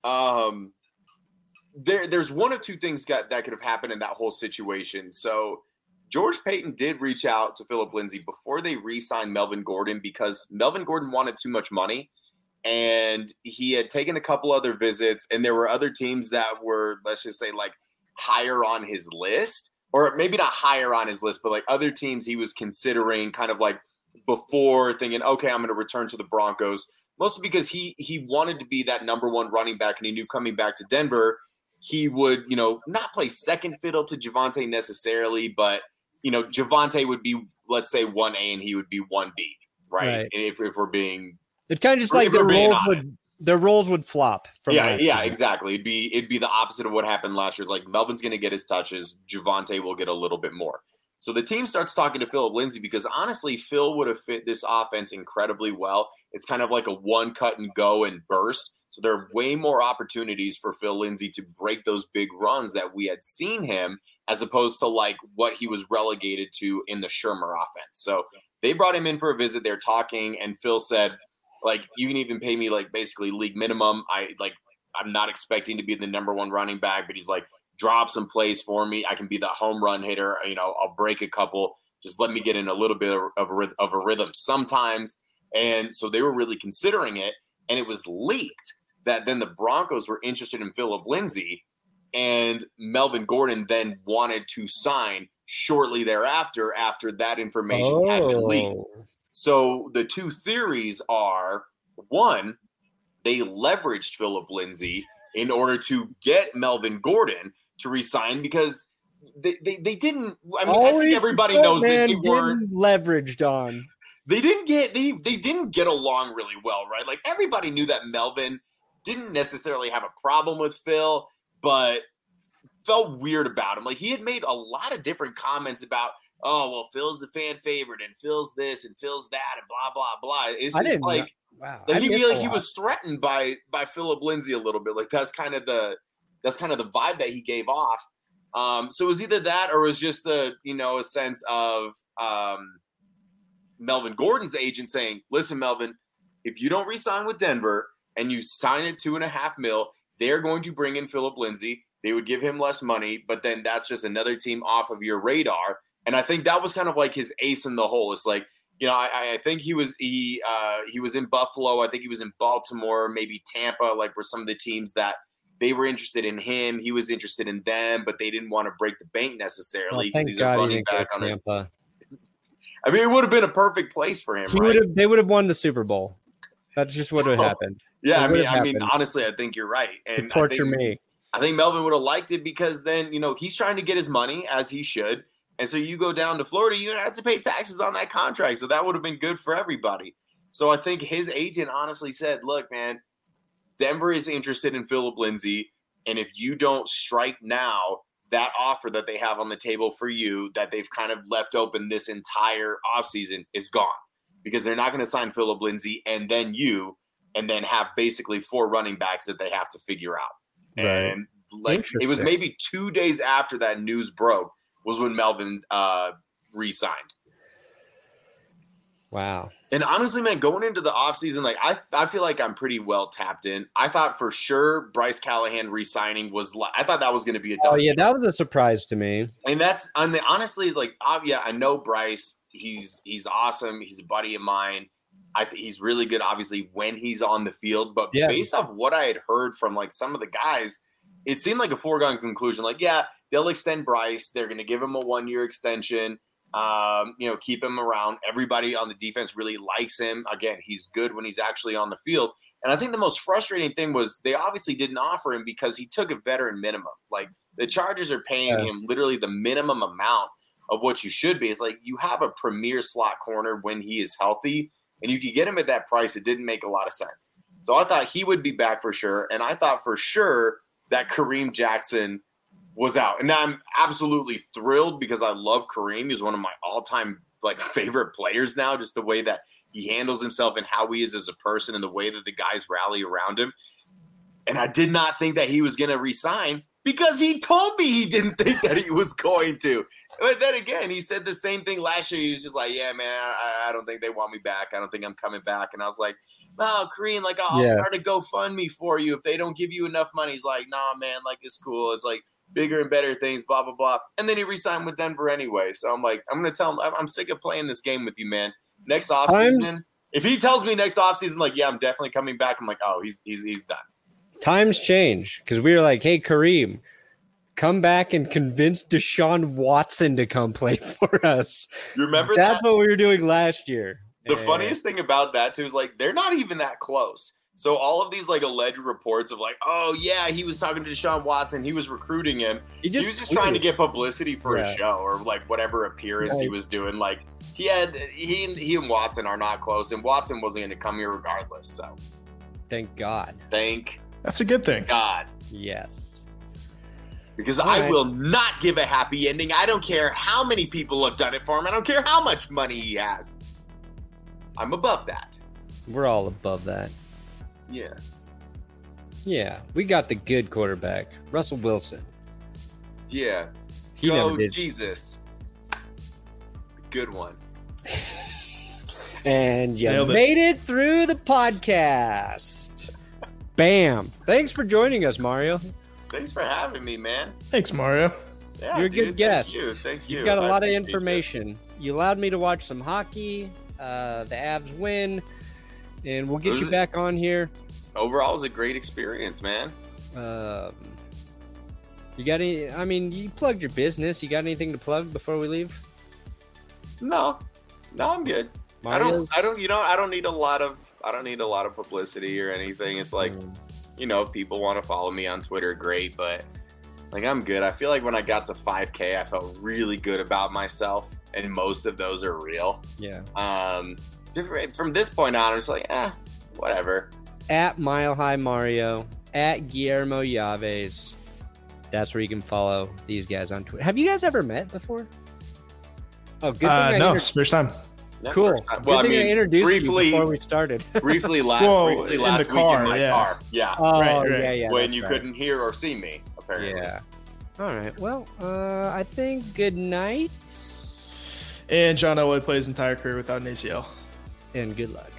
B: There's one of two things that could have happened in that whole situation. So George Paton did reach out to Philip Lindsay before they re-signed Melvin Gordon because Melvin Gordon wanted too much money, and he had taken a couple other visits, and there were other teams that were, let's just say, higher on his list, or maybe not higher on his list, but other teams he was considering kind of before thinking, okay, I'm going to return to the Broncos, mostly because he wanted to be that number one running back, and he knew coming back to Denver, he would, not play second fiddle to Javonte necessarily, but, Javonte would be, let's say, 1A and he would be 1B, right? If we're being –
A: it's kind of just their roles would flop.
B: Exactly. It'd be the opposite of what happened last year. It's Melvin's going to get his touches. Javonte will get a little bit more. So the team starts talking to Philip Lindsay because, honestly, Phil would have fit this offense incredibly well. It's kind of like a one cut and go and burst. So there are way more opportunities for Phil Lindsay to break those big runs that we had seen him, as opposed to what he was relegated to in the Shermer offense. So they brought him in for a visit. They're talking, and Phil said, you can even pay me basically league minimum. I'm not expecting to be the number one running back, but he's drop some plays for me. I can be the home run hitter. I'll break a couple. Just let me get in a little bit of a rhythm sometimes. And so they were really considering it, and it was leaked that then the Broncos were interested in Philip Lindsay, and Melvin Gordon then wanted to sign shortly thereafter after that information had been leaked. So the two theories are, one, they leveraged Philip Lindsay in order to get Melvin Gordon to resign because they didn't. I mean, I think everybody knows that they weren't
A: leveraged on.
B: They didn't get along really well, right? Everybody knew that Melvin didn't necessarily have a problem with Phil, but felt weird about him. He had made a lot of different comments about, oh, well, Phil's the fan favorite, and Phil's this, and Phil's that, and blah, blah, blah. It's just
A: wow.
B: He was threatened by Philip Lindsay a little bit. That's kind of the vibe that he gave off. So it was either that or it was just a sense of Melvin Gordon's agent saying, listen, Melvin, if you don't re-sign with Denver and you sign at $2.5 million, they're going to bring in Philip Lindsay. They would give him less money, but then that's just another team off of your radar. And I think that was kind of like his ace in the hole. It's like, you know, I think he was in Buffalo. I think he was in Baltimore, maybe Tampa, like were some of the teams that they were interested in him. He was interested in them, but they didn't want to break the bank necessarily because he's a running back on his. I mean, it would have been a perfect place for him.
A: They would have won the Super Bowl. That's just what would have happened.
B: Yeah, I mean, honestly, I think you're right. And
A: torture me.
B: I think Melvin would have liked it because then, you know, he's trying to get his money as he should. And so you go down to Florida, you have to pay taxes on that contract. So that would have been good for everybody. So I think his agent honestly said, look, man, Denver is interested in Philip Lindsay. And if you don't strike now, that offer that they have on the table for you that they've kind of left open this entire offseason is gone because they're not going to sign Philip Lindsay and then have basically 4 running backs that they have to figure out. Right. And like it was maybe 2 days after that news broke was when Melvin re-signed.
A: Wow.
B: And honestly, man, going into the offseason, like I feel like I'm pretty well tapped in. I thought for sure Bryce Callahan re-signing I thought that was going to be a done.
A: Oh, yeah, that was a surprise to me.
B: And honestly, like, yeah, I know Bryce. He's awesome. He's a buddy of mine. He's really good, obviously, when he's on the field. But based off what I had heard from, like, some of the guys, it seemed like a foregone conclusion. Like, yeah, they'll extend Bryce. They're going to give him a 1-year extension, keep him around. Everybody on the defense really likes him. Again, he's good when he's actually on the field. And I think the most frustrating thing was they obviously didn't offer him because he took a veteran minimum. Like, the Chargers are paying him literally the minimum amount of what you should be. It's like you have a premier slot corner when he is healthy, and you could get him at that price. It didn't make a lot of sense. So I thought he would be back for sure. And I thought for sure that Kareem Jackson was out. And I'm absolutely thrilled because I love Kareem. He's one of my all-time favorite players now, just the way that he handles himself and how he is as a person and the way that the guys rally around him. And I did not think that he was going to resign because he told me he didn't think that he was going to. But then again, he said the same thing last year. He was just like, yeah, man, I don't think they want me back. I don't think I'm coming back. And I was like, no, Kareem, I'll start a GoFundMe for you if they don't give you enough money. He's like, nah, man, it's cool. It's bigger and better things, blah, blah, blah. And then he re-signed with Denver anyway. So I'm like, I'm going to tell him, I'm sick of playing this game with you, man. Next offseason, if he tells me next offseason, yeah, I'm definitely coming back, I'm like, oh, he's done.
A: Times change because we were like, hey, Kareem, come back and convince Deshaun Watson to come play for us.
B: You remember
A: That's what we were doing last year.
B: The funniest thing about that, too, is they're not even that close. So all of these alleged reports of oh, yeah, he was talking to Deshaun Watson. He was recruiting him. He was just trying to get publicity for a show or whatever appearance he was doing. He and Watson are not close, and Watson wasn't going to come here regardless. So
A: thank God.
C: That's a good thing.
B: God.
A: Yes.
B: Because I will not give a happy ending. I don't care how many people have done it for him. I don't care how much money he has. I'm above that.
A: We're all above that.
B: Yeah.
A: Yeah. We got the good quarterback, Russell Wilson.
B: Yeah.
A: He never did.
B: Jesus. The good one.
A: And you made it through the podcast. Bam. Thanks for joining us, Mario.
B: Thanks for having me, man.
C: Thanks, Mario.
B: Yeah,
A: you're a good guest.
B: Thank you.
A: You got a lot of information. You allowed me to watch some hockey. The Avs win. And we'll get you back on here.
B: Overall, it was a great experience, man.
A: You got any? I mean, you plugged your business. You got anything to plug before we leave?
B: No, I'm good.
A: Mario's?
B: I don't need a lot of publicity or anything. It's people want to follow me on Twitter, great, but I'm good. I feel like when I got to 5K, I felt really good about myself, and most of those are real.
A: Yeah.
B: From this point on, it's whatever.
A: At Mile High Mario, at Guillermo Yaves. That's where you can follow these guys on Twitter. Have you guys ever met before? Oh, good thing
C: no, it's first time.
A: Cool. Well, good thing I introduced you before we started.
B: briefly last
C: in
B: week
C: the car,
B: in my car. Yeah.
A: Oh,
C: right.
A: Yeah.
B: When you couldn't hear or see me, apparently.
A: Yeah. All right. Well, I think good night.
C: And John Elway plays his entire career without an ACL.
A: And good luck.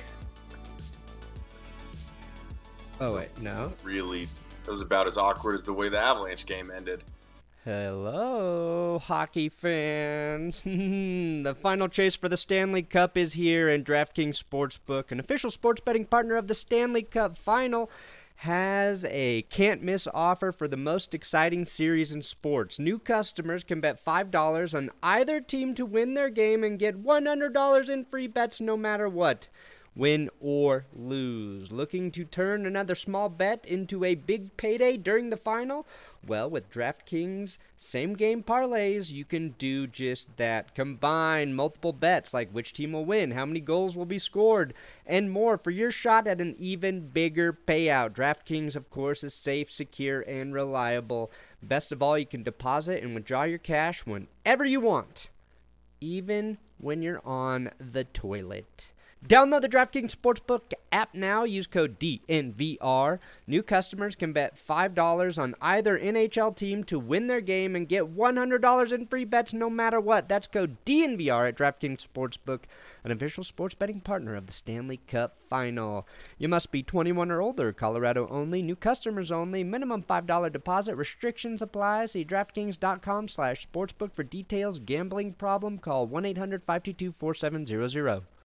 A: Oh, wait, no?
B: Really, it was about as awkward as the way the Avalanche game ended.
A: Hello, hockey fans. The final chase for the Stanley Cup is here, and DraftKings Sportsbook, an official sports betting partner of the Stanley Cup Final, has a can't-miss offer for the most exciting series in sports. New customers can bet $5 on either team to win their game and get $100 in free bets no matter what. Win or lose. Looking to turn another small bet into a big payday during the final? Well, with DraftKings same-game parlays, you can do just that. Combine multiple bets like which team will win, how many goals will be scored, and more for your shot at an even bigger payout. DraftKings, of course, is safe, secure, and reliable. Best of all, you can deposit and withdraw your cash whenever you want, even when you're on the toilet. Download the DraftKings Sportsbook app now. Use code DNVR. New customers can bet $5 on either NHL team to win their game and get $100 in free bets no matter what. That's code DNVR at DraftKings Sportsbook, an official sports betting partner of the Stanley Cup Final. You must be 21 or older. Colorado only. New customers only. Minimum $5 deposit. Restrictions apply. See DraftKings.com/sportsbook for details. Gambling problem? Call 1-800-522-4700.